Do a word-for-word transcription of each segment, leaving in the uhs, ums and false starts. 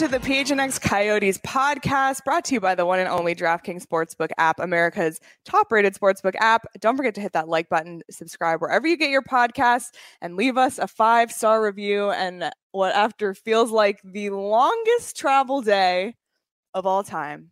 to the P H N X Coyotes podcast, brought to you by the one and only DraftKings Sportsbook app, America's top-rated sportsbook app. Don't forget to hit that like button, subscribe wherever you get your podcasts, and leave us a five-star review. And what after feels like the longest travel day of all time.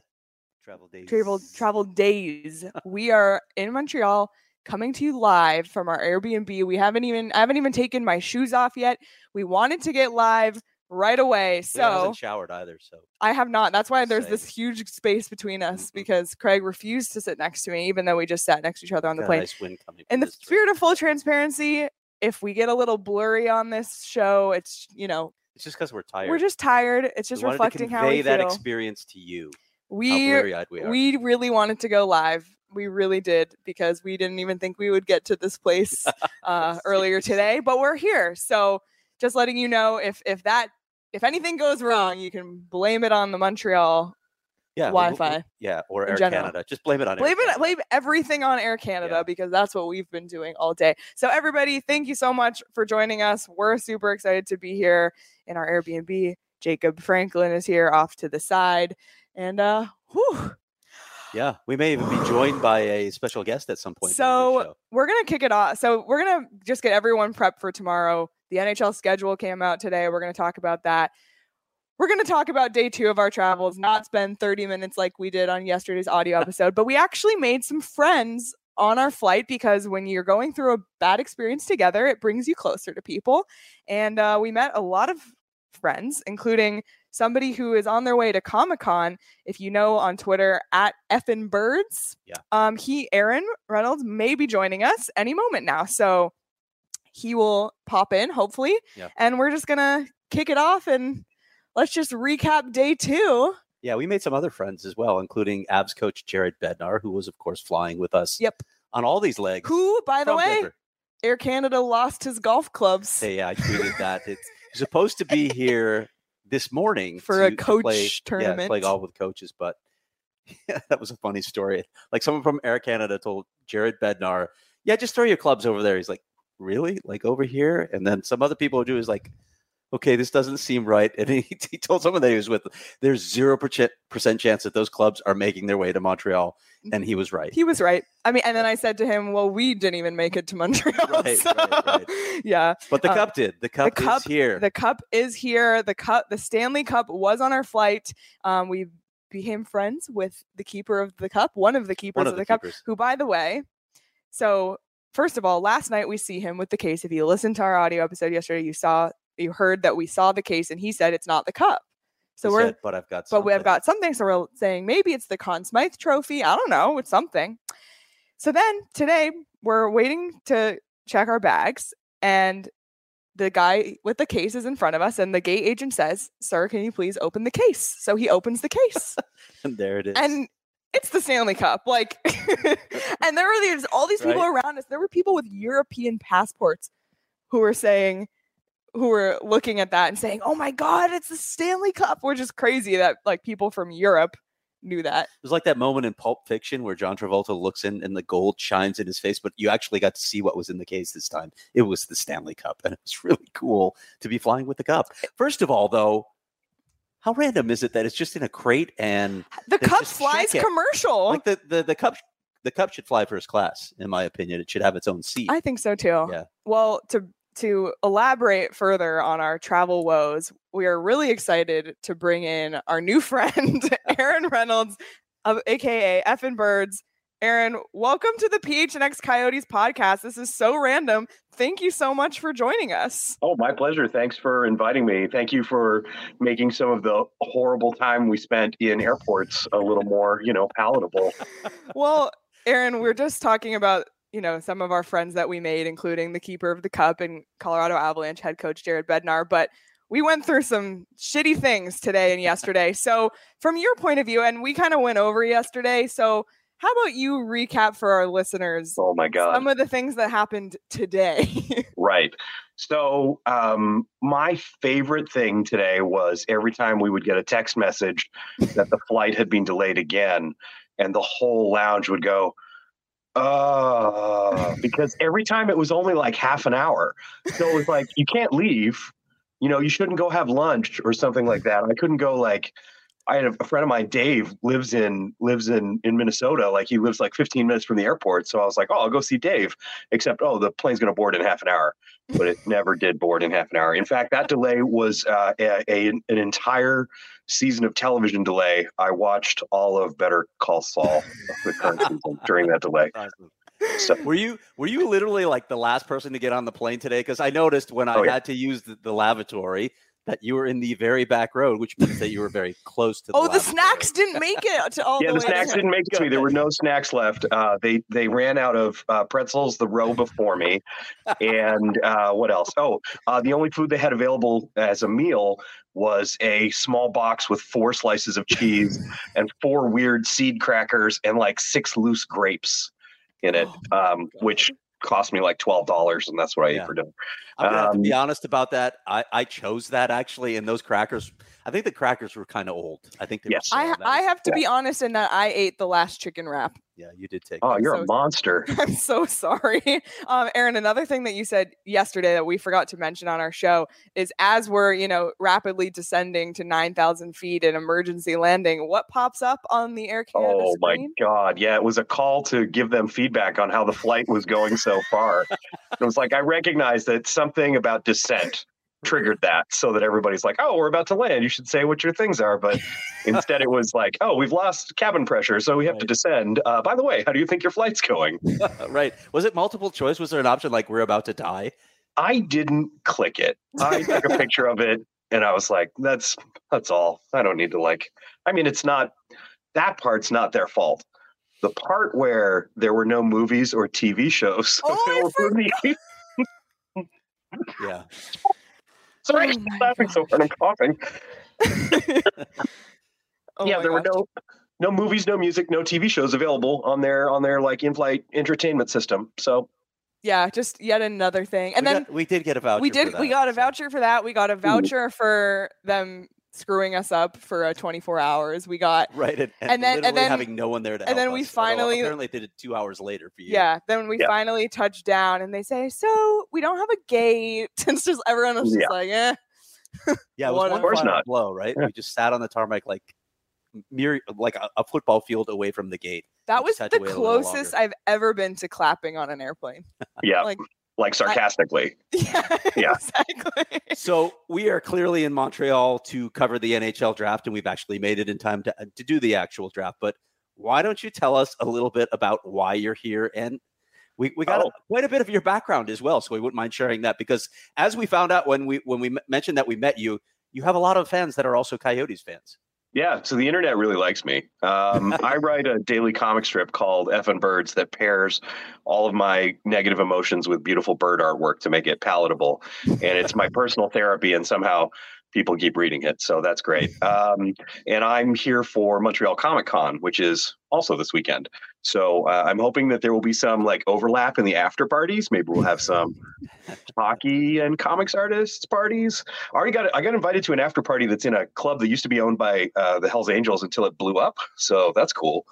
Travel days. Travel, travel days. We are in Montreal, coming to you live from our Airbnb. We haven't even, I haven't even taken my shoes off yet. We wanted to get live right away. So I haven't showered either. So I have not. That's why there's Same. this huge space between us Mm-hmm. because Craig refused to sit next to me, even though we just sat next to each other on the Got a plane. nice wind coming In from the this spirit direction. of full transparency, if we get a little blurry on this show, it's, you know, It's just because we're tired. we're just tired. It's just we wanted reflecting to how we convey that feel. experience to you. How we blurry-eyed we are. we really wanted to go live. We really did because we didn't even think we would get to this place uh, earlier today, but we're here. So just letting you know if if that if anything goes wrong, you can blame it on the Montreal yeah, we'll- Wi-Fi. we'll- yeah, or in Air general. Canada. Just blame it on Blame Air it, Canada. blame everything on Air Canada Yeah. because that's what we've been doing all day. So everybody, thank you so much for joining us. We're super excited to be here in our Airbnb. Jacob Franklin is here off to the side, and uh, whew. Yeah, we may even be joined by a special guest at some point. during the So show. we're gonna kick it off. So we're gonna just get everyone prepped for tomorrow. The N H L schedule came out today. We're gonna talk about that. We're gonna talk about day two of our travels, not spend thirty minutes like we did on yesterday's audio episode, but we actually made some friends on our flight because when you're going through a bad experience together, it brings you closer to people. And uh, we met a lot of friends, including somebody who is on their way to Comic-Con. If you know on Twitter at Effin Birds, Yeah. um, he Aaron Reynolds may be joining us any moment now, so he will pop in hopefully, Yeah. and we're just gonna kick it off and let's just recap day two. Yeah, we made some other friends as well, including Avs coach Jared Bednar, who was, of course, flying with us Yep. on all these legs. Who, by the from way, Denver. Air Canada lost his golf clubs Hey, yeah, I tweeted that. It's he's supposed to be here this morning for a to- to coach play, tournament. Yeah, play golf with coaches, but yeah, that was a funny story. Like someone from Air Canada told Jared Bednar, "Yeah, just throw your clubs over there." He's like, "Really? Like over here?" And then some other people do is like, "Okay, this doesn't seem right." And he, he told someone that he was with, "There's zero percent chance that those clubs are making their way to Montreal," and he was right. He was right. I mean, and then I said to him, "Well, we didn't even make it to Montreal." Right, so, right, right. Yeah. But the Uh, cup did. The cup, cup- is here. The cup is here. The cup, the Stanley Cup was on our flight. Um, we became friends with the keeper of the cup, one of the keepers One of of the, the cup, keepers. who, by the way, so first of all, last night we see him with the case. If you listened to our audio episode yesterday, you saw, you heard that we saw the case, and he said it's not the cup. So He we're, said, but I've got. but we have something." got something. So we're saying maybe it's the Conn Smythe Trophy. I don't know. It's something. So then today we're waiting to check our bags, and the guy with the case is in front of us, and the gate agent says, "Sir, can you please open the case?" So he opens the case, And there it is. and it's the Stanley Cup. Like, and there were these all these people around us. There were people with European passports who were saying, who were looking at that and saying, "Oh my God, it's the Stanley Cup," which is crazy that like people from Europe knew that. It was like that moment in Pulp Fiction where John Travolta looks in and the gold shines in his face, but you actually got to see what was in the case this time. It was the Stanley Cup, and it was really cool to be flying with the cup. First of all, though, how random is it that it's just in a crate and The They cup just flies check it. commercial. like the, the, the cup the cup should fly first class, in my opinion. It should have its own seat. I think so too. Yeah. Well, to to elaborate further on our travel woes, we are really excited to bring in our new friend, Aaron Reynolds, of A K A Effin Birds. Aaron, welcome to the P H N X Coyotes podcast. This is so random. Thank you so much for joining us. Oh, my pleasure. Thanks for inviting me. Thank you for making some of the horrible time we spent in airports a little more, you know, palatable. Well, Aaron, we're just talking about, you know, some of our friends that we made, including the keeper of the cup and Colorado Avalanche head coach Jared Bednar. But we went through some shitty things today and yesterday. So from your point of view, and we kind of went over yesterday. So how about you recap for our listeners Oh, my God. some of the things that happened today? Right. So um, my favorite thing today was every time we would get a text message that the flight had been delayed again, and the whole lounge would go, uh, because every time it was only like half an hour. So it was like, you can't leave. you know, you shouldn't go have lunch or something like that. I couldn't go like, I had a friend of mine, Dave, lives in lives in, in Minnesota. Like he lives like fifteen minutes from the airport. So I was like, oh, I'll go see Dave. Except, oh, the plane's going to board in half an hour. But it never did board in half an hour. In fact, that delay was uh, a, a an entire season of television delay. I watched all of Better Call Saul, the current season, during that delay. Awesome. So, Were you were you literally like the last person to get on the plane today? Because I noticed when I Oh, yeah. had to use the, the lavatory that you were in the very back row, which means that you were very close to the Oh, the lavatory. snacks didn't make it to all yeah, the the way snacks to didn't make it to me. There were no snacks left. Uh, they they ran out of uh, pretzels the row before me, and uh, what else? Oh, uh, the only food they had available as a meal was a small box with four slices of cheese and four weird seed crackers and like six loose grapes in it, Oh, my um, God. which cost me like twelve dollars, and that's what I Yeah. ate for dinner. I'm gonna have to be Um, honest about that. I, I chose that actually, and those crackers. I think the crackers were kind of old. I think they Yes. were. I stale. That I was- have to be honest in that I ate the last chicken wrap. Yeah, you did take. Oh, that. you're so- a monster. I'm so sorry. Um, Aaron, another thing that you said yesterday that we forgot to mention on our show is as we're, you know, rapidly descending to nine thousand feet in emergency landing, what pops up on the Air Canada Oh my screen? God. Yeah, it was a call to give them feedback on how the flight was going so far. It was like, I recognized that something about descent triggered that so that everybody's like, oh, we're about to land. You should say what your things are. But instead it was like, oh, we've lost cabin pressure, so we have to Right. descend. Uh, by the way, how do you think your flight's going? Right. Was it multiple choice? Was there an option like we're about to die? I didn't click it. I took a picture of it and I was like, that's that's all. I don't need to like, I mean, it's not, that part's not their fault. The part where there were no movies or T V shows. Oh, I available for me- Yeah. Sorry, Oh I'm my laughing so hard. I'm coughing. Oh yeah, my there were gosh. no no movies, no music, no T V shows available on their on their like in-flight entertainment system. So Yeah, just yet another thing. And we then got, we did get a voucher. we for did we that, got a so- voucher for that. We got a voucher for them screwing us up for a twenty-four hours. We got Right, and, and, And then- and literally then- having no one there to and help then we us, although finally- apparently they did two hours later for you. yeah, then we Yeah. finally touched down and they say, so we don't have a gate. It's just everyone was just Yeah. like, eh. yeah, it was What one a- course final not. blow, right? Yeah. We just sat on the tarmac like mere like a, a football field away from the gate. That We was just had the to wait a little closest longer. I've ever been to clapping on an airplane. yeah, Like, like sarcastically. yeah, Yeah. exactly. So we are clearly in Montreal to cover the N H L draft, and we've actually made it in time to to do the actual draft. But why don't you tell us a little bit about why you're here? And we, we got Oh. a, quite a bit of your background as well, so we wouldn't mind sharing that because as we found out when we when we m- mentioned that we met you, you have a lot of fans that are also Coyotes fans. Yeah, so the internet really likes me. Um, I write a daily comic strip called Effin' Birds that pairs all of my negative emotions with beautiful bird artwork to make it palatable. And it's my personal therapy, and somehow people keep reading it. So that's great. Um, and I'm here for Montreal Comic Con, which is also this weekend. So uh, I'm hoping that there will be some like overlap in the after parties. Maybe we'll have some hockey and comics artists parties. I already got I got invited to an after party that's in a club that used to be owned by uh, the Hells Angels until it blew up. So that's cool.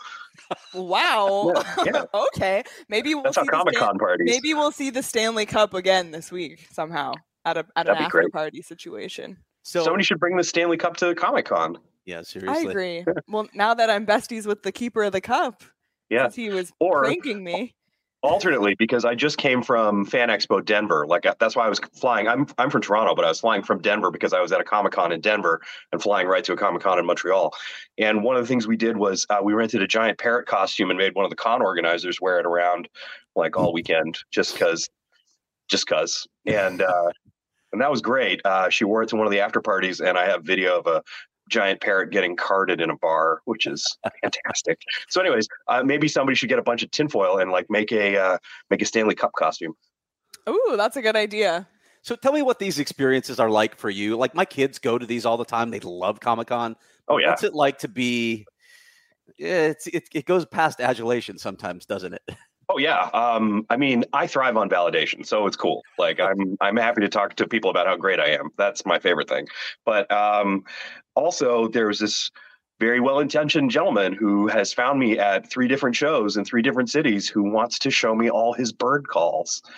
Wow. Yeah, yeah. Okay. Maybe we'll That's how see the Comic Stan- Con parties. maybe we'll see the Stanley Cup again this week somehow at a at an That'd be after great. party situation. So Somebody should bring the Stanley Cup to Comic Con. yeah, I seriously. agree. Well, now that I'm besties with the keeper of the cup, Yeah. since he was Or- pranking me. Alternately, because I just came from Fan Expo Denver, like uh, that's why I was flying. I'm I'm from Toronto, but I was flying from Denver because I was at a Comic Con in Denver and flying right to a Comic Con in Montreal. And one of the things we did was uh, we rented a giant parrot costume and made one of the con organizers wear it around like all weekend, just because, just because. And uh, and that was great. Uh, she wore it to one of the after parties, and I have video of a giant parrot getting carded in a bar, which is fantastic. So, anyways, uh, maybe somebody should get a bunch of tinfoil and like make a uh, make a Stanley Cup costume. Ooh, that's a good idea. So tell me what these experiences are like for you. Like my kids go to these all the time. They love Comic Con. Oh yeah, What's it like to be? Yeah, It's it, it goes past adulation sometimes, doesn't it? oh yeah. Um, I mean, I thrive on validation, so it's cool. Like I'm I'm happy to talk to people about how great I am. That's my favorite thing. But um, also, there's this very well-intentioned gentleman who has found me at three different shows in three different cities who wants to show me all his bird calls.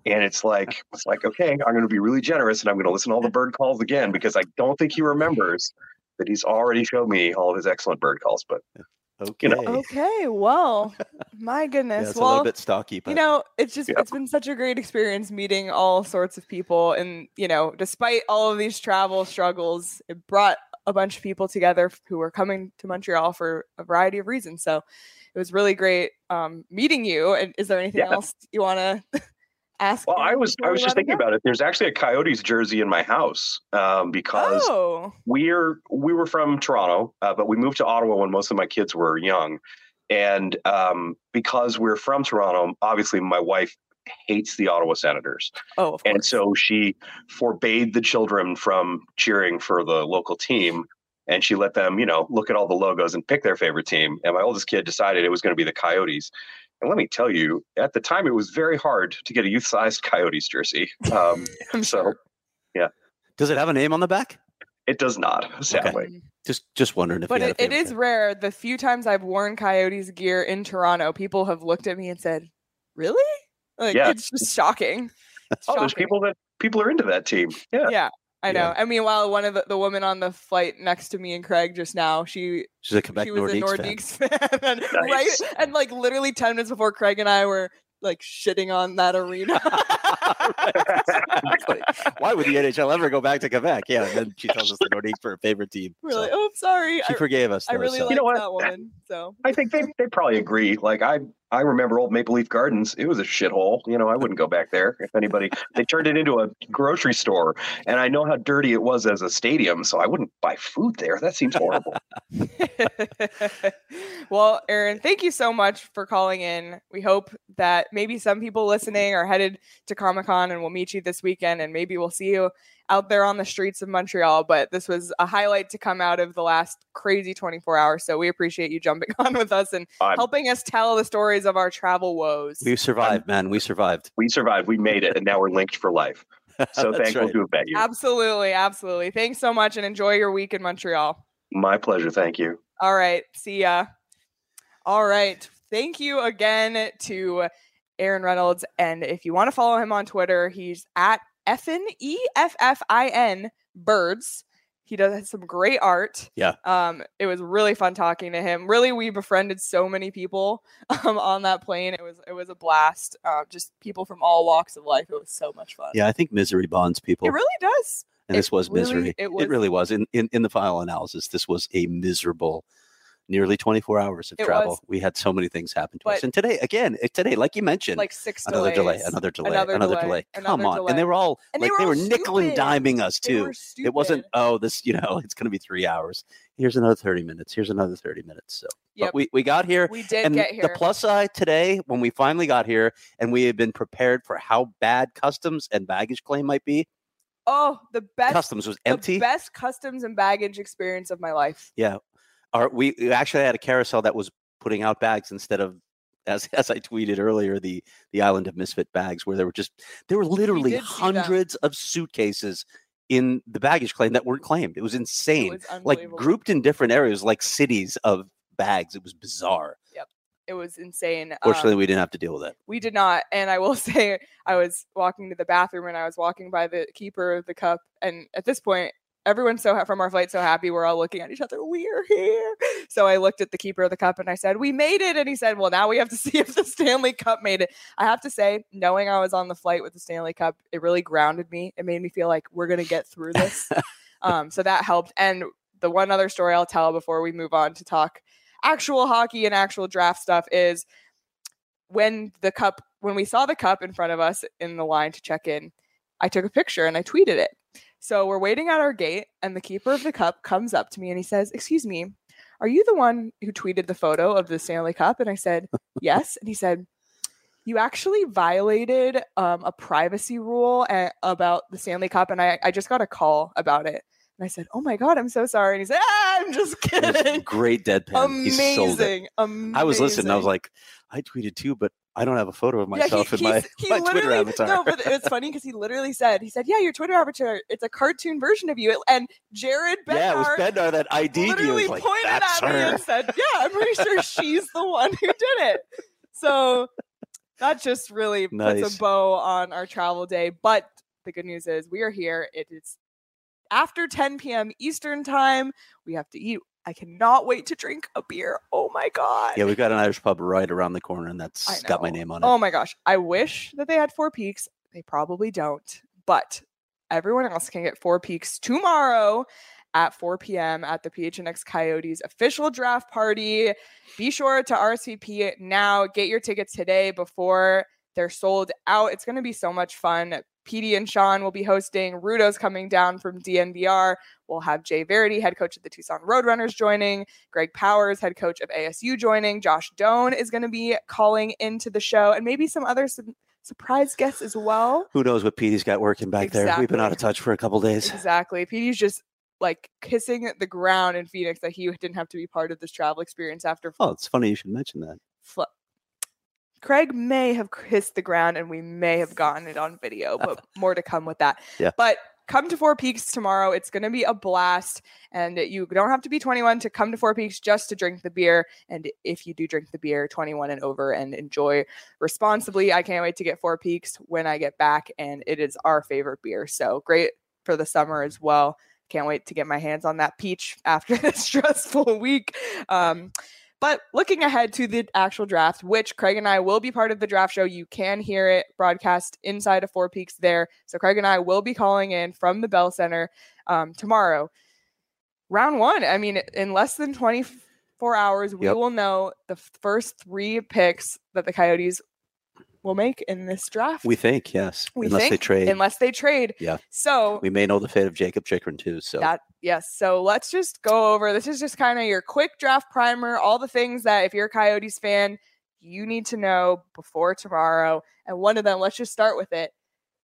And it's like, it's like, okay, I'm going to be really generous and I'm going to listen to all the bird calls again because I don't think he remembers that he's already showed me all of his excellent bird calls. But okay, you know. Okay, well, my goodness. Yeah, it's well, a little bit stocky, but you know, it's just Yeah. it's been such a great experience meeting all sorts of people, and you know, despite all of these travel struggles, it brought a bunch of people together who were coming to Montreal for a variety of reasons. So it was really great um, meeting you. And is there anything Yeah. else you want to ask? Well, I Aaron was before I we was let just him thinking go? about it. There's actually a Coyotes jersey in my house um, because Oh, we're we were from Toronto, uh, but we moved to Ottawa when most of my kids were young, and um, because we're from Toronto, obviously my wife hates the Ottawa Senators, oh, of and course. so she forbade the children from cheering for the local team. And she let them, you know, look at all the logos and pick their favorite team. And my oldest kid decided it was going to be the Coyotes. And let me tell you, at the time, it was very hard to get a youth-sized Coyotes jersey. Um, I'm so, sure. yeah. Does it have a name on the back? It does not, sadly. Mm. Just just wondering if But you had it, a it favorite is team. rare. The few times I've worn Coyotes gear in Toronto, people have looked at me and said, "Really?" Like Yeah. it's just shocking. It's Oh, there's shocking. people that people are into that team. Yeah. Yeah, I know. Yeah. And meanwhile, one of the, the women on the flight next to me and Craig just now, she She's a Quebec she was a Nordiques fan. Nordiques fan, and right, Nice. and like literally ten minutes before Craig and I were like shitting on that arena. Exactly. Why would the N H L ever go back to Quebec? Yeah, and then she tells us the Nordiques were her favorite team. We're So like, oh, sorry. she I, forgave us. I though, really so. like You know what? that woman. So I think they, they probably agree. Like I I remember old Maple Leaf Gardens. It was a shithole. You know, I wouldn't go back there if anybody. They turned it into a grocery store, and I know how dirty it was as a stadium, so I wouldn't buy food there. That seems horrible. well, Aaron, thank you so much for calling in. We hope that maybe some people listening are headed to Comic-Con and we'll meet you this weekend, and maybe we'll see you out there on the streets of Montreal. But this was a highlight to come out of the last crazy twenty-four hours. So we appreciate you jumping on with us and I'm- helping us tell the stories of our travel woes. We survived, man. We survived. We survived. We made it, and now we're linked for life. So That's thankful right. to have met you. Absolutely. Absolutely. Thanks so much and enjoy your week in Montreal. My pleasure. Thank you. All right. See ya. All right. Thank you again to Aaron Reynolds. And if you want to follow him on Twitter, he's at Effin, E F F I N, Birds. He does some great art. Yeah. Um, it was really fun talking to him. Really, we befriended so many people um, on that plane. It was it was a blast. Uh, just people from all walks of life. It was so much fun. Yeah, I think misery bonds people. It really does. and it this was really- misery. it It, was- really was. In, in in the final analysis, this was a miserable nearly twenty-four hours of It travel. was. We had so many things happen to us. But- And today, again, it- today, like you mentioned, Like six another delay, delays. another delay, another another, delay, delay. Come another on. delay. And they were all And they like were they all were nickel and stupid. diming us They too. were It wasn't, stupid. oh, this, you know, it's going to be three hours. Here's another thirty minutes. Here's another thirty minutes. So, Yep. but we, we got here. We did And get here. the plus side today, when we finally got here and we had been prepared for how bad customs and baggage claim might be, oh, the best customs was the empty. best customs and baggage experience of my life. Yeah. Our, we we actually had a carousel that was putting out bags instead of, as as I tweeted earlier, the the Island of Misfit bags, where there were just there were literally did see them. hundreds of suitcases in the baggage claim that weren't claimed. It was It insane, was like unbelievable. grouped in different areas, like cities of bags. It was bizarre. It was insane. Fortunately, Um, we didn't have to deal with it. we did not. And I will say, I was walking to the bathroom and I was walking by the keeper of the cup. And at this point, everyone's so ha- from our flight so happy. We're all looking at each other. We're here. So I looked at the keeper of the cup and I said, "We made it." And he said, "Well, now we have to see if the Stanley Cup made it." I have to say, knowing I was on the flight with the Stanley Cup, it really grounded me. It made me feel like we're gonna get through this. um, so that helped. And the one other story I'll tell before we move on to talk actual hockey and actual draft stuff is when the cup, when we saw the cup in front of us in the line to check in, I took a picture and I tweeted it. So we're waiting at our gate and the keeper of the cup comes up to me and he says, "Excuse me, are you the one who tweeted the photo of the Stanley Cup?" And I said, "Yes." And he said, "You actually violated um, a privacy rule a- about the Stanley Cup. And I, I just got a call about it." And I said, "Oh my God, I'm so sorry." And he said, "Ah, I'm just It was kidding." great deadpan. He sold it. Amazing. Amazing. I was listening. I was like, I tweeted too, but I don't have a photo of Yeah, myself he, in my, he's- he my Twitter literally- avatar. No, but it's funny because he literally said, he said, "Yeah, your Twitter avatar, it's a cartoon version of you." And Jared Bednar yeah, it was Bednar that I D'd you. literally It's like, pointed that's at me her. and said, "Yeah, I'm pretty sure she's the one who did it." So that just really Nice. puts a bow on our travel day. But the good news is we are here. It is after ten p.m. Eastern time. We have to eat. I cannot wait to drink a beer. Oh my God. Yeah, we've got an Irish pub right around the corner, and I that's know. got my name on it. Oh my gosh. I wish that they had Four Peaks. They probably don't. But everyone else can get Four Peaks tomorrow at four p.m. at the P H N X Coyotes official draft party. Be sure to R S V P now. Get your tickets today before they're sold out. It's going to be so much fun. P D and Sean will be hosting. Rudo's coming down from D N V R. We'll have Jay Verity, head coach of the Tucson Roadrunners, joining. Greg Powers, head coach of A S U, joining. Josh Doan is going to be calling into the show, and maybe some other su- surprise guests as well. Who knows what Petey's got working back Exactly. there? We've been out of touch for a couple days. Exactly. P D's just like kissing the ground in Phoenix that he didn't have to be part of this travel experience after. Oh, it's funny you should mention that. Fl- Craig may have kissed the ground and we may have gotten it on video, but more to come with that. Yeah. But come to Four Peaks tomorrow. It's going to be a blast, and you don't have to be twenty-one to come to Four Peaks just to drink the beer. And if you do drink the beer, twenty-one and over, and enjoy responsibly. I can't wait to get Four Peaks when I get back, and it is our favorite beer. So great for the summer as well. Can't wait to get my hands on that peach after this stressful week. Um, But looking ahead to the actual draft, which Craig and I will be part of the draft show. You can hear it broadcast inside of Four Peaks there. So Craig and I will be calling in from the Bell Center um, tomorrow. Round one. I mean, in less than twenty-four hours, we Yep. will know the first three picks that the Coyotes will make in this draft. We think, yes. We unless think, they trade. Unless they trade. Yeah. So we may know the fate of Jacob Chikrin too. So that yes. So let's just go over. This is just kind of your quick draft primer, all the things that if you're a Coyotes fan, you need to know before tomorrow. And one of them, let's just start with it.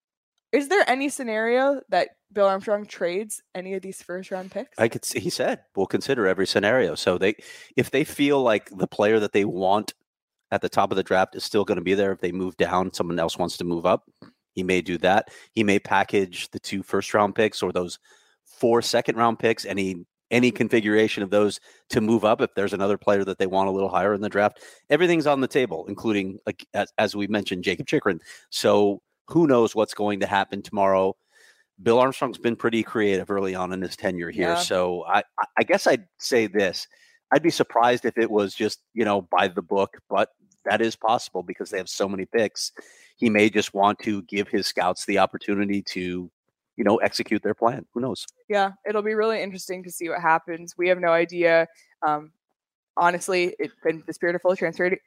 Is there any scenario that Bill Armstrong trades any of these first round picks? I could see, he said we'll consider every scenario. So they if they feel like the player that they want at the top of the draft is still going to be there, if they move down, someone else wants to move up, he may do that. He may package the two first round picks or those four second round picks, any any configuration of those to move up if there's another player that they want a little higher in the draft. Everything's on the table, including, like as, as we mentioned, Jacob Chikrin. So who knows what's going to happen tomorrow. Bill Armstrong's been pretty creative early on in his tenure here. Yeah. So I, I guess I'd say this. I'd be surprised if it was just, you know, by the book, but that is possible because they have so many picks. He may just want to give his scouts the opportunity to, you know, execute their plan. Who knows? Yeah, it'll be really interesting to see what happens. We have no idea. Um, honestly, it, in the spirit of full transparency,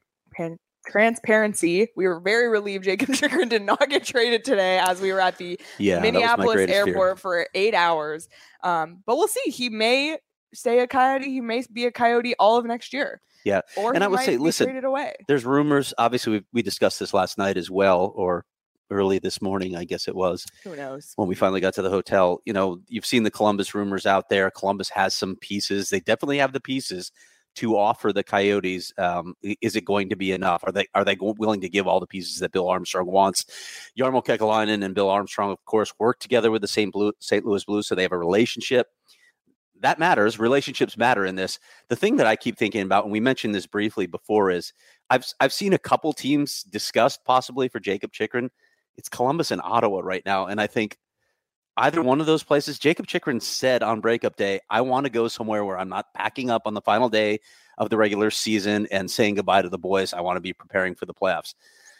transparency, we were very relieved Jacob Chikrin did not get traded today as we were at the Yeah, Minneapolis airport fear. for eight hours. Um, but we'll see. He may stay a Coyote. He may be a Coyote all of next year. Yeah. Or and he I would might say, be listen, traded away. There's rumors. Obviously, we, we discussed this last night as well, or early this morning, I guess it was. Who knows? When we finally got to the hotel. You know, you've seen the Columbus rumors out there. Columbus has some pieces. They definitely have the pieces to offer the Coyotes. Um, is it going to be enough? Are they are they willing to give all the pieces that Bill Armstrong wants? Jarmo Kekalainen and Bill Armstrong, of course, work together with the Saint Louis Blues, so they have a relationship. That matters. Relationships matter in this. The thing that I keep thinking about, and we mentioned this briefly before, is I've I've seen a couple teams discussed possibly for Jacob Chikrin. It's Columbus and Ottawa right now, and I think either one of those places. Jacob Chikrin said on breakup day, "I want to go somewhere where I'm not packing up on the final day of the regular season and saying goodbye to the boys. I want to be preparing for the playoffs."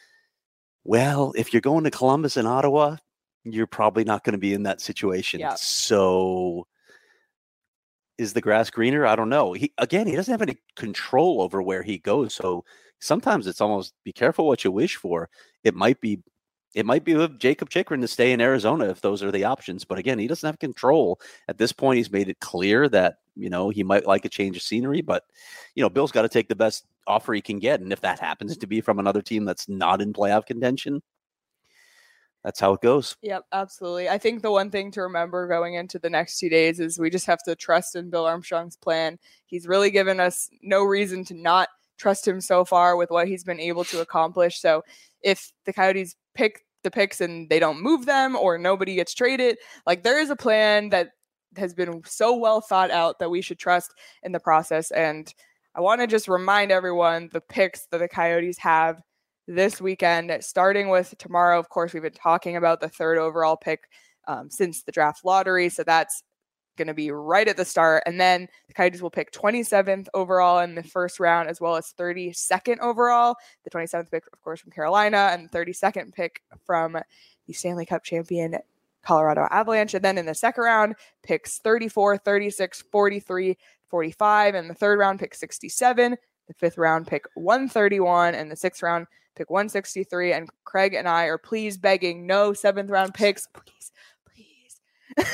Well, if you're going to Columbus and Ottawa, you're probably not going to be in that situation. Yeah. So. Is the grass greener? I don't know. He again, he doesn't have any control over where he goes. So sometimes it's almost be careful what you wish for. It might be, it might be with Jacob Chikrin to stay in Arizona if those are the options. But again, he doesn't have control at this point. He's made it clear that you know he might like a change of scenery. But you know, Bill's got to take the best offer he can get, and if that happens to be from another team that's not in playoff contention, that's how it goes. Yep, absolutely. I think the one thing to remember going into the next two days is we just have to trust in Bill Armstrong's plan. He's really given us no reason to not trust him so far with what he's been able to accomplish. So if the Coyotes pick the picks and they don't move them or nobody gets traded, like there is a plan that has been so well thought out that we should trust in the process. And I want to just remind everyone the picks that the Coyotes have this weekend, starting with tomorrow. Of course, we've been talking about the third overall pick um, since the draft lottery. So that's going to be right at the start. And then the Coyotes will pick twenty-seventh overall in the first round, as well as thirty-second overall. The twenty-seventh pick, of course, from Carolina, and thirty-second pick from the Stanley Cup champion Colorado Avalanche. And then in the second round, picks thirty-four, thirty-six, forty-three, forty-five. And the third round, pick sixty-seven. The fifth round, pick one thirty-one. And the sixth round, pick one sixty-three. And Craig and I are please begging no seventh round picks. Please, please.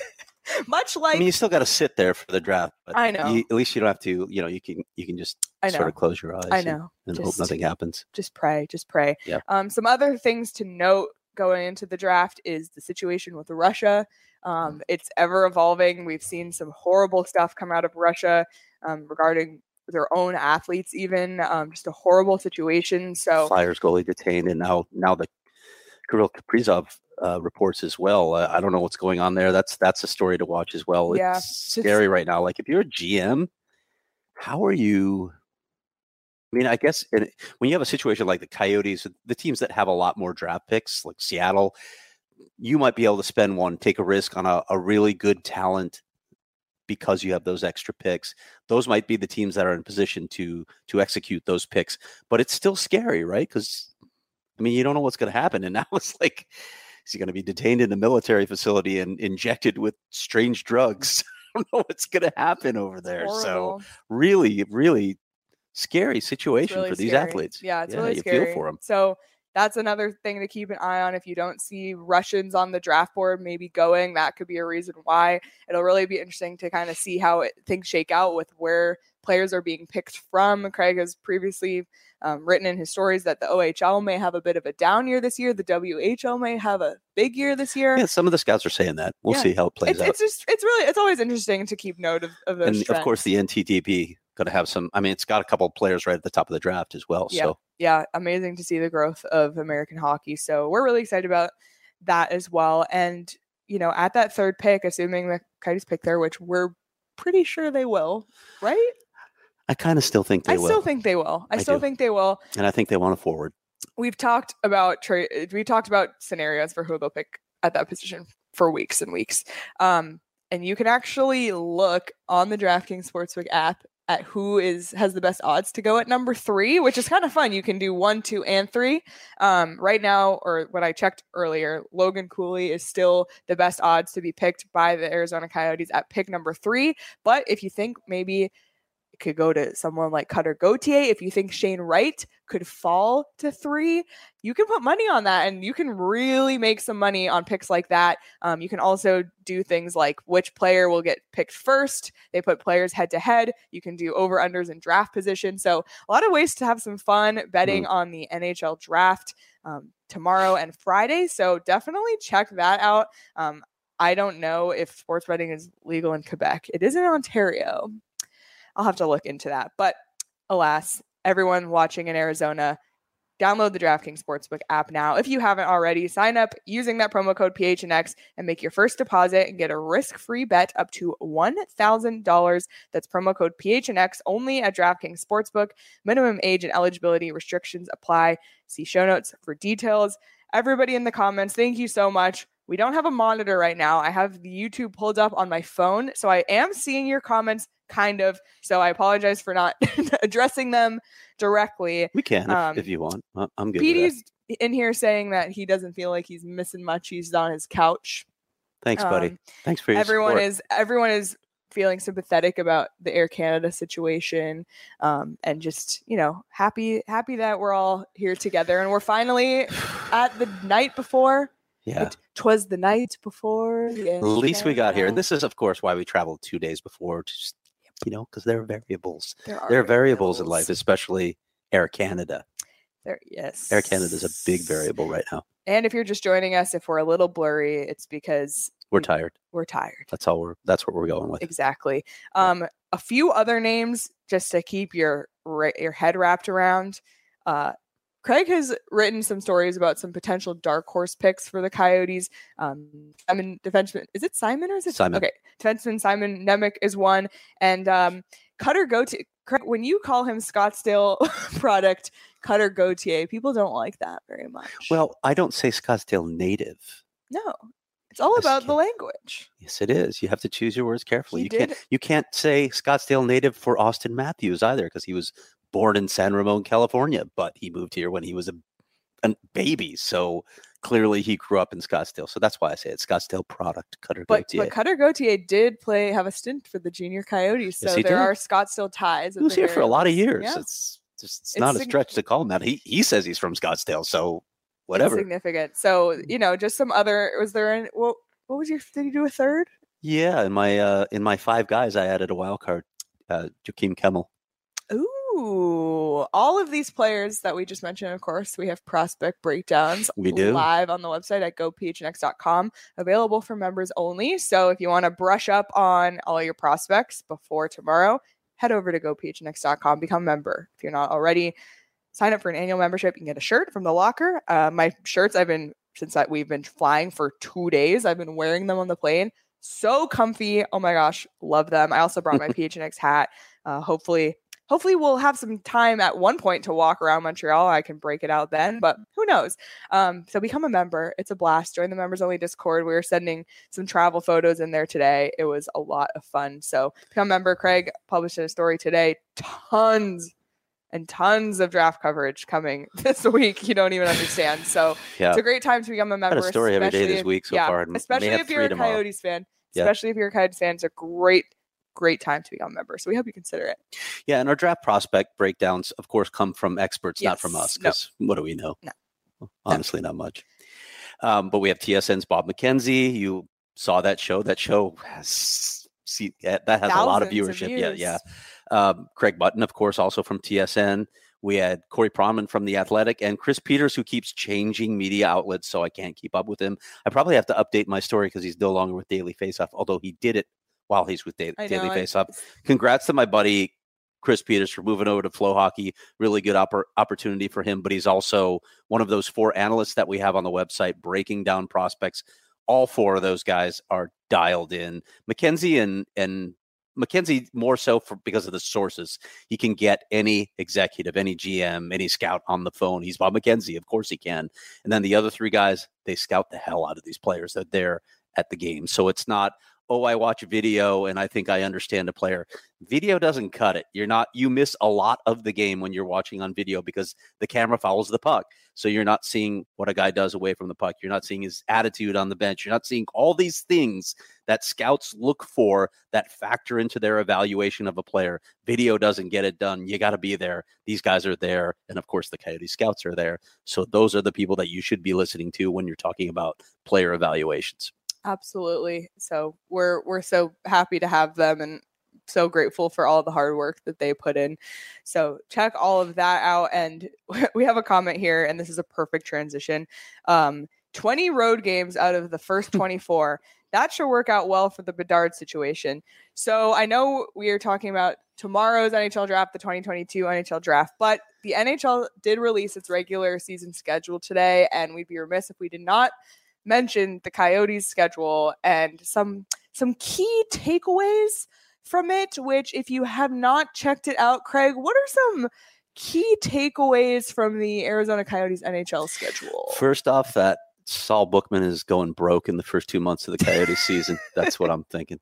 Much like, I mean, you still got to sit there for the draft. But I know. You, at least you don't have to, you know, you can you can just I know. sort of close your eyes. I know. And, and Just- hope nothing happens. Just pray, just pray. Yeah. Um, some other things to note going into the draft is the situation with Russia. Um, it's ever evolving. We've seen some horrible stuff come out of Russia um, regarding their own athletes, even um, just a horrible situation. So Flyers goalie detained, and now now the Kirill Kaprizov uh, reports as well. Uh, I don't know what's going on there. That's that's a story to watch as well. Yeah, It's just- scary right now. Like if you're a G M, how are you? I mean, I guess in, when you have a situation like the Coyotes, the teams that have a lot more draft picks, like Seattle, you might be able to spend one, take a risk on a, a really good talent because you have those extra picks. Those might be the teams that are in position to to execute those picks. But it's still scary, right? Because I mean, you don't know what's going to happen. And now it's like, is he going to be detained in a military facility and injected with strange drugs? I don't know what's going to happen over there. So horrible. really, really scary It's situation really for these scary. athletes. Yeah, it's Yeah, really you scary. feel for 'em. So that's another thing to keep an eye on. If you don't see Russians on the draft board maybe going, that could be a reason why. It'll really be interesting to kind of see how it, things shake out with where players are being picked from. Craig has previously um, written in his stories that the O H L may have a bit of a down year this year. The W H L may have a big year this year. Yeah, some of the scouts are saying that. We'll Yeah. see how it plays It's, out. it's just, it's really, it's always interesting to keep note of, of those And of course, trends. the N T D P going to have some. I mean, it's got a couple of players right at the top of the draft as well. Yeah. So yeah, amazing to see the growth of American hockey. So we're really excited about that as well. And, you know, at that third pick, assuming the Coyotes pick there, which we're pretty sure they will, right? I kind of still think they I will, still think they will. I, I still do. think they will. and I think they want to forward. We've talked about trade. We talked about scenarios for who they'll pick at that position for weeks and weeks. Um, and you can actually look on the DraftKings Sportsbook app at who is has the best odds to go at number three, which is kind of fun. You can do one, two, and three. Um, right now, or when I checked earlier, Logan Cooley is still the best odds to be picked by the Arizona Coyotes at pick number three. But if you think maybe it could go to someone like Cutter Gauthier, if you think Shane Wright could fall to three, you can put money on that and you can really make some money on picks like that. Um, you can also do things like which player will get picked first. They put players head to head. You can do over unders and draft position. So a lot of ways to have some fun betting Mm. on the N H L draft um, tomorrow and Friday. So definitely check that out. Um, I don't know if sports betting is legal in Quebec. It is in Ontario. I'll have to look into that. But alas, everyone watching in Arizona, download the DraftKings Sportsbook app now. If you haven't already, sign up using that promo code P H N X and make your first deposit and get a risk-free bet up to one thousand dollars. That's promo code P H N X only at DraftKings Sportsbook. Minimum age and eligibility restrictions apply. See show notes for details. Everybody in the comments, thank you so much. We don't have a monitor right now. I have the YouTube pulled up on my phone, so I am seeing your comments kind of. So I apologize for not addressing them directly. We can if, Um, if you want. I- I'm good with that. Petey's in here saying that he doesn't feel like he's missing much. He's on his couch. Thanks, buddy. Um, Thanks for your everyone support. is everyone is feeling sympathetic about the Air Canada situation, um, and just you know happy happy that we're all here together and we're finally at the night before. Yeah. It, twas the night before. The At least we got here. And N H L. this is, of course, why we traveled two days before. To just, you know, because there are variables. There are There are variables in life, especially Air Canada. There, yes. Air Canada is a big variable right now. And if you're just joining us, if we're a little blurry, it's because We're Mm. tired. we're tired. That's all we're. That's what we're going with. Exactly. Um, a few other names just to keep your ra- your head wrapped around. Uh, Craig has written some stories about some potential dark horse picks for the Coyotes. Um, Simon defenseman, is it Simon or is it Simon. Okay, defenseman Simon Nemec is one, and um, Cutter Gauthier. Craig, when you call him Scottsdale product Cutter Gauthier. People don't like that very much. Well, I don't say Scottsdale native. No, it's all Yes, about you the can. language. Yes, it is. You have to choose your words carefully. He You did. can't you can't say Scottsdale native for Austin Matthews either, because he was born in San Ramon, California, but he moved here when he was a, a baby. So clearly he grew up in Scottsdale. So that's why I say it's Scottsdale product, Cutter But, Gauthier. but Cutter Gauthier did play have a stint for the junior Coyotes, so Yes, he there did. are Scottsdale ties. He was here for a lot of years. Yeah. It's just it's, It's not a sig- stretch to call him that. He he says he's from Scottsdale, so It's whatever. significant. So you know, just some other. Was there any? What what was your? Did you do a third? Yeah, in my uh, in my five guys, I added a wild card, uh, Joakim Kemmel. Ooh, all of these players that we just mentioned, of course, we have prospect breakdowns We do. live on the website at go p h n x dot com, available for members only. So if you want to brush up on all your prospects before tomorrow, head over to go p h n x dot com, become a member. If you're not already, sign up for an annual membership. You can get a shirt from the locker. Uh, my shirts, I've been, since I, we've been flying for two days, I've been wearing them on the plane. So comfy. Oh my gosh, love them. I also brought my P H N X hat. Uh, hopefully, hopefully we'll have some time at one point to walk around Montreal. I can break it out then, but who knows? Um, so become a member. It's a blast. Join the members only Discord. We were sending some travel photos in there today. It was a lot of fun. So become a member. Craig published a story today. Tons and tons of draft coverage coming this week. You don't even understand. So Yeah, it's a great time to become a member. Got a story every day especially this if- week so yeah, far. and may especially have if you're three a tomorrow. Coyotes fan. Yeah. Especially if you're a Coyotes fan, it's a great, great time to become a member. So we hope you consider it. Yeah, and our draft prospect breakdowns, of course, come from experts, not from Yes. us. No. Because what do we know? No. Honestly, not much. Um, but we have T S N's Bob McKenzie. You saw that show. That show has see that has a lot of Thousands of viewership. Yeah, views. yeah. Um, Craig Button, of course, also from T S N. We had Corey Pronman from The Athletic and Chris Peters, who keeps changing media outlets, so I can't keep up with him. I probably have to update my story because he's no longer with Daily Faceoff, although he did it while he's with da- I Daily know, I- Faceoff. Congrats to my buddy Chris Peters for moving over to Flow Hockey. Really good oppor- opportunity for him, but he's also one of those four analysts that we have on the website breaking down prospects. All four of those guys are dialed in. McKenzie and and McKenzie more so for because of the sources. He can get any executive, any G M, any scout on the phone. He's Bob McKenzie. Of course he can. And then the other three guys, they scout the hell out of these players that they're at the game. So it's not, oh, I watch a video and I think I understand a player. Video doesn't cut it. You're not, you miss a lot of the game when you're watching on video because the camera follows the puck. So you're not seeing what a guy does away from the puck. You're not seeing his attitude on the bench. You're not seeing all these things that scouts look for that factor into their evaluation of a player. Video doesn't get it done. You got to be there. These guys are there. And of course, the Coyote scouts are there. So those are the people that you should be listening to when you're talking about player evaluations. Absolutely. So we're we're so happy to have them and so grateful for all the hard work that they put in. So check all of that out. And we have a comment here, and this is a perfect transition. Um, twenty road games out of the first twenty-four. That should work out well for the Bedard situation. So I know we are talking about tomorrow's N H L draft, the twenty twenty-two N H L draft, but the N H L did release its regular season schedule today, and we'd be remiss if we did not mention the Coyotes schedule and some some key takeaways from it, which if you have not checked it out, Craig, what are some key takeaways from the Arizona Coyotes N H L schedule? First off, that Saul Bookman is going broke in the first two months of the Coyotes season. That's what I'm thinking.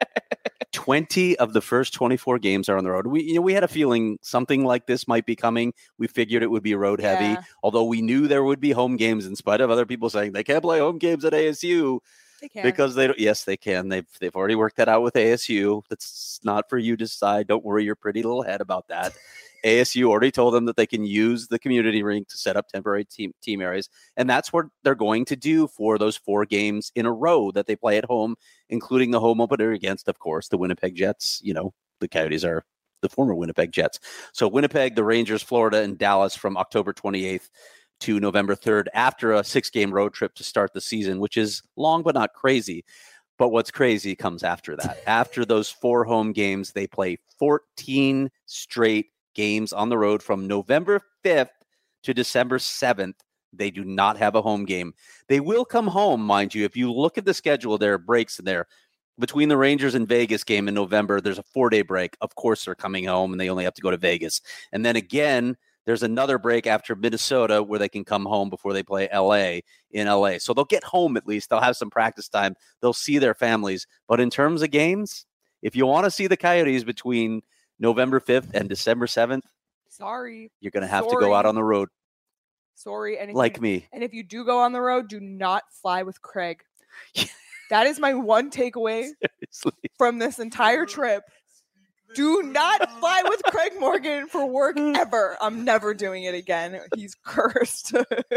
twenty of the first twenty-four games are on the road. We, you know, we had a feeling something like this might be coming. We figured it would be road heavy, Yeah. although we knew there would be home games in spite of other people saying they can't play home games at A S U They can. because they don't. Yes, they can. They've they've already worked that out with A S U. That's not for you to decide. Don't worry your pretty little head about that. A S U already told them that they can use the community rink to set up temporary team team areas, and that's what they're going to do for those four games in a row that they play at home, including the home opener against, of course, the Winnipeg Jets. You know, the Coyotes are the former Winnipeg Jets. So Winnipeg, the Rangers, Florida, and Dallas from October twenty-eighth to November third after a six-game road trip to start the season, which is long but not crazy. But what's crazy comes after that. After those four home games, they play fourteen straight games on the road from November fifth to December seventh. They do not have a home game. They will come home, mind you. If you look at the schedule, there are breaks in there. Between the Rangers and Vegas game in November, there's a four-day break. Of course, they're coming home, and they only have to go to Vegas. And then again, there's another break after Minnesota where they can come home before they play L A in L A. So they'll get home at least. They'll have some practice time. They'll see their families. But in terms of games, if you want to see the Coyotes between November fifth and December seventh, sorry, you're going to have sorry. to go out on the road. Sorry. And like you, me. And if you do go on the road, do not fly with Craig. That is my one takeaway Seriously. from this entire trip. Do not fly with Craig Morgan for work ever. I'm never doing it again. He's cursed.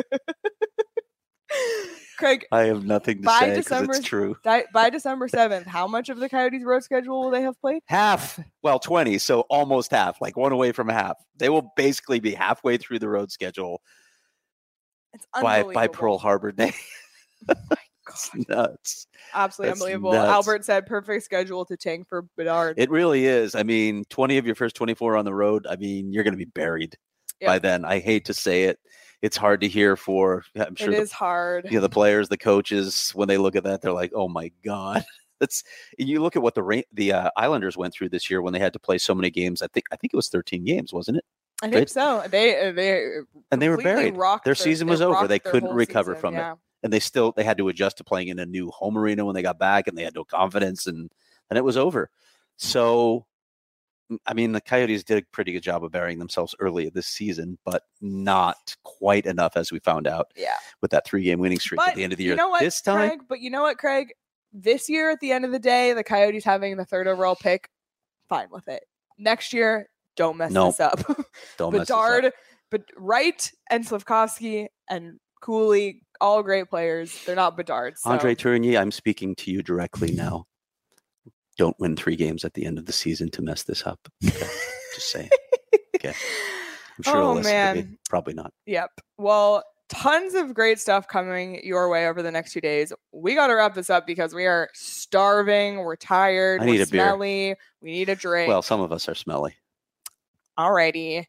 Craig, I have nothing to by say because December, it's true. Di- by December seventh, how much of the Coyotes' road schedule will they have played? Half. Well, twenty, so almost half, like one away from half. They will basically be halfway through the road schedule It's by, unbelievable. by Pearl Harbor Day. Oh my It's God. nuts. Absolutely That's unbelievable. nuts. Albert said perfect schedule to tank for Bedard. It really is. I mean, twenty of your first twenty-four on the road, I mean, you're going to be buried Yep. by then. I hate to say it. It's hard to hear for, I'm sure It the, is hard. you know, the players, the coaches, when they look at that, they're like, oh my God. That's, you look at what the Ra- the uh, Islanders went through this year when they had to play so many games. I think I think it was thirteen games, wasn't it? I think right? so. They they And they were completely buried. rocked Their season was they over. rocked They their couldn't whole recover season, from it. yeah. And they still they had to adjust to playing in a new home arena when they got back, and they had no confidence, and and it was over. So, I mean, the Coyotes did a pretty good job of burying themselves early this season, but not quite enough, as we found out Yeah. with that three game winning streak But at the end of the year. you know what, This time, Craig? But you know what, Craig? This year, at the end of the day, the Coyotes having the third overall pick, fine with it. Next year, don't mess Nope. this up. don't mess this Bedard, up. but Wright and Slavkovsky and Cooley, all great players. They're not Bedard. So. Andre Tourigny, I'm speaking to you directly now. Don't win three games at the end of the season to mess this up. Okay. Just saying. Okay. I'm sure Oh, he'll listen to me. man. Probably not. Yep. Well, tons of great stuff coming your way over the next two days. We got to wrap this up because we are starving. We're tired. I we're need a beer. smelly. We need a drink. Well, some of us are smelly. Alrighty.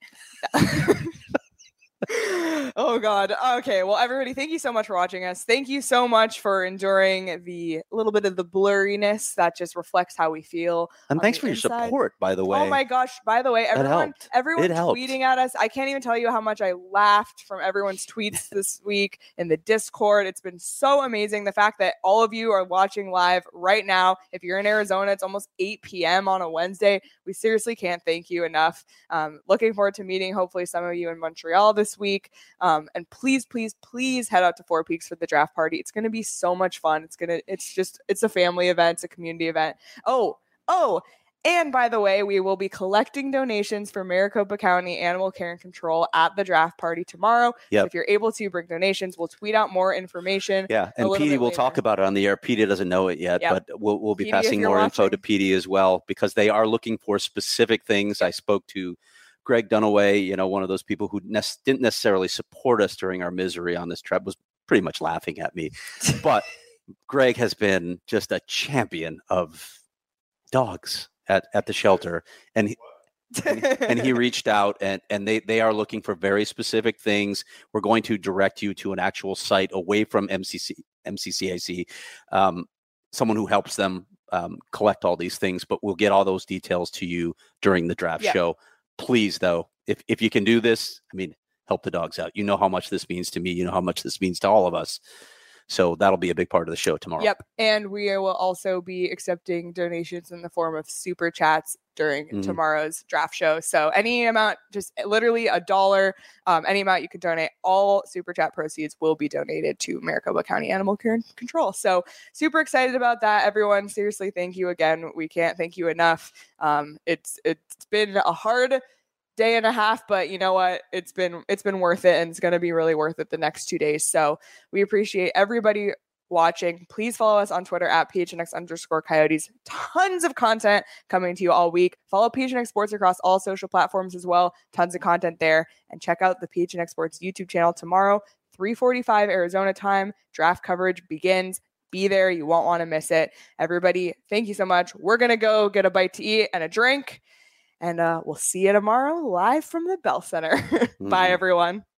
Oh God. Okay. Well, everybody, thank you so much for watching us. Thank you so much for enduring the little bit of the blurriness that just reflects how we feel. And on thanks the for your inside. support, by the way. Oh my gosh. By the way, That everyone helped. everyone It helped. tweeting at us. I can't even tell you how much I laughed from everyone's tweets this week in the Discord. It's been so amazing. The fact that all of you are watching live right now. If you're in Arizona, it's almost eight p.m. on a Wednesday. We seriously can't thank you enough. Um, looking forward to meeting hopefully some of you in Montreal this week. Um, and please, please, please head out to Four Peaks for the draft party. It's going to be so much fun. It's going to, it's just, it's a family event. It's a community event. Oh, oh, and by the way, we will be collecting donations for Maricopa County Animal Care and Control at the draft party tomorrow. Yep. So if you're able to bring donations, we'll tweet out more information. Yeah, and little Petey bit will later. talk about it on the air. Petey doesn't know it yet, Yep. but we'll we'll be Petey, if passing you're more info to watching. Petey as well because they are looking for specific things. I spoke to Greg Dunaway, you know, one of those people who ne- didn't necessarily support us during our misery on this trip, was pretty much laughing at me. But Greg has been just a champion of dogs at, at the shelter. And he, and, and he reached out and, and they, they are looking for very specific things. We're going to direct you to an actual site away from M C C, M C C A C, um, someone who helps them um, collect all these things, but we'll get all those details to you during the draft Yeah. show. Please, though, if, if you can do this, I mean, help the dogs out. You know how much this means to me. You know how much this means to all of us. So that'll be a big part of the show tomorrow. Yep. And we will also be accepting donations in the form of super chats during Mhm. tomorrow's draft show. So any amount, just literally a dollar, um, any amount you can donate, all super chat proceeds will be donated to Maricopa County Animal Care and Control. So super excited about that, everyone. Seriously, thank you again. We can't thank you enough. Um, it's it's been a hard day and a half, but you know what? It's been it's been worth it, and it's going to be really worth it the next two days. So we appreciate everybody watching. Please follow us on Twitter at P H N X underscore Coyotes. Tons of content coming to you all week. Follow P H N X Sports across all social platforms as well. Tons of content there. And check out the P H N X Sports YouTube channel tomorrow, three forty-five Arizona time. Draft coverage begins. Be there. You won't want to miss it. Everybody, thank you so much. We're going to go get a bite to eat and a drink. And uh, we'll see you tomorrow live from the Bell Center. Bye, Mhm. everyone.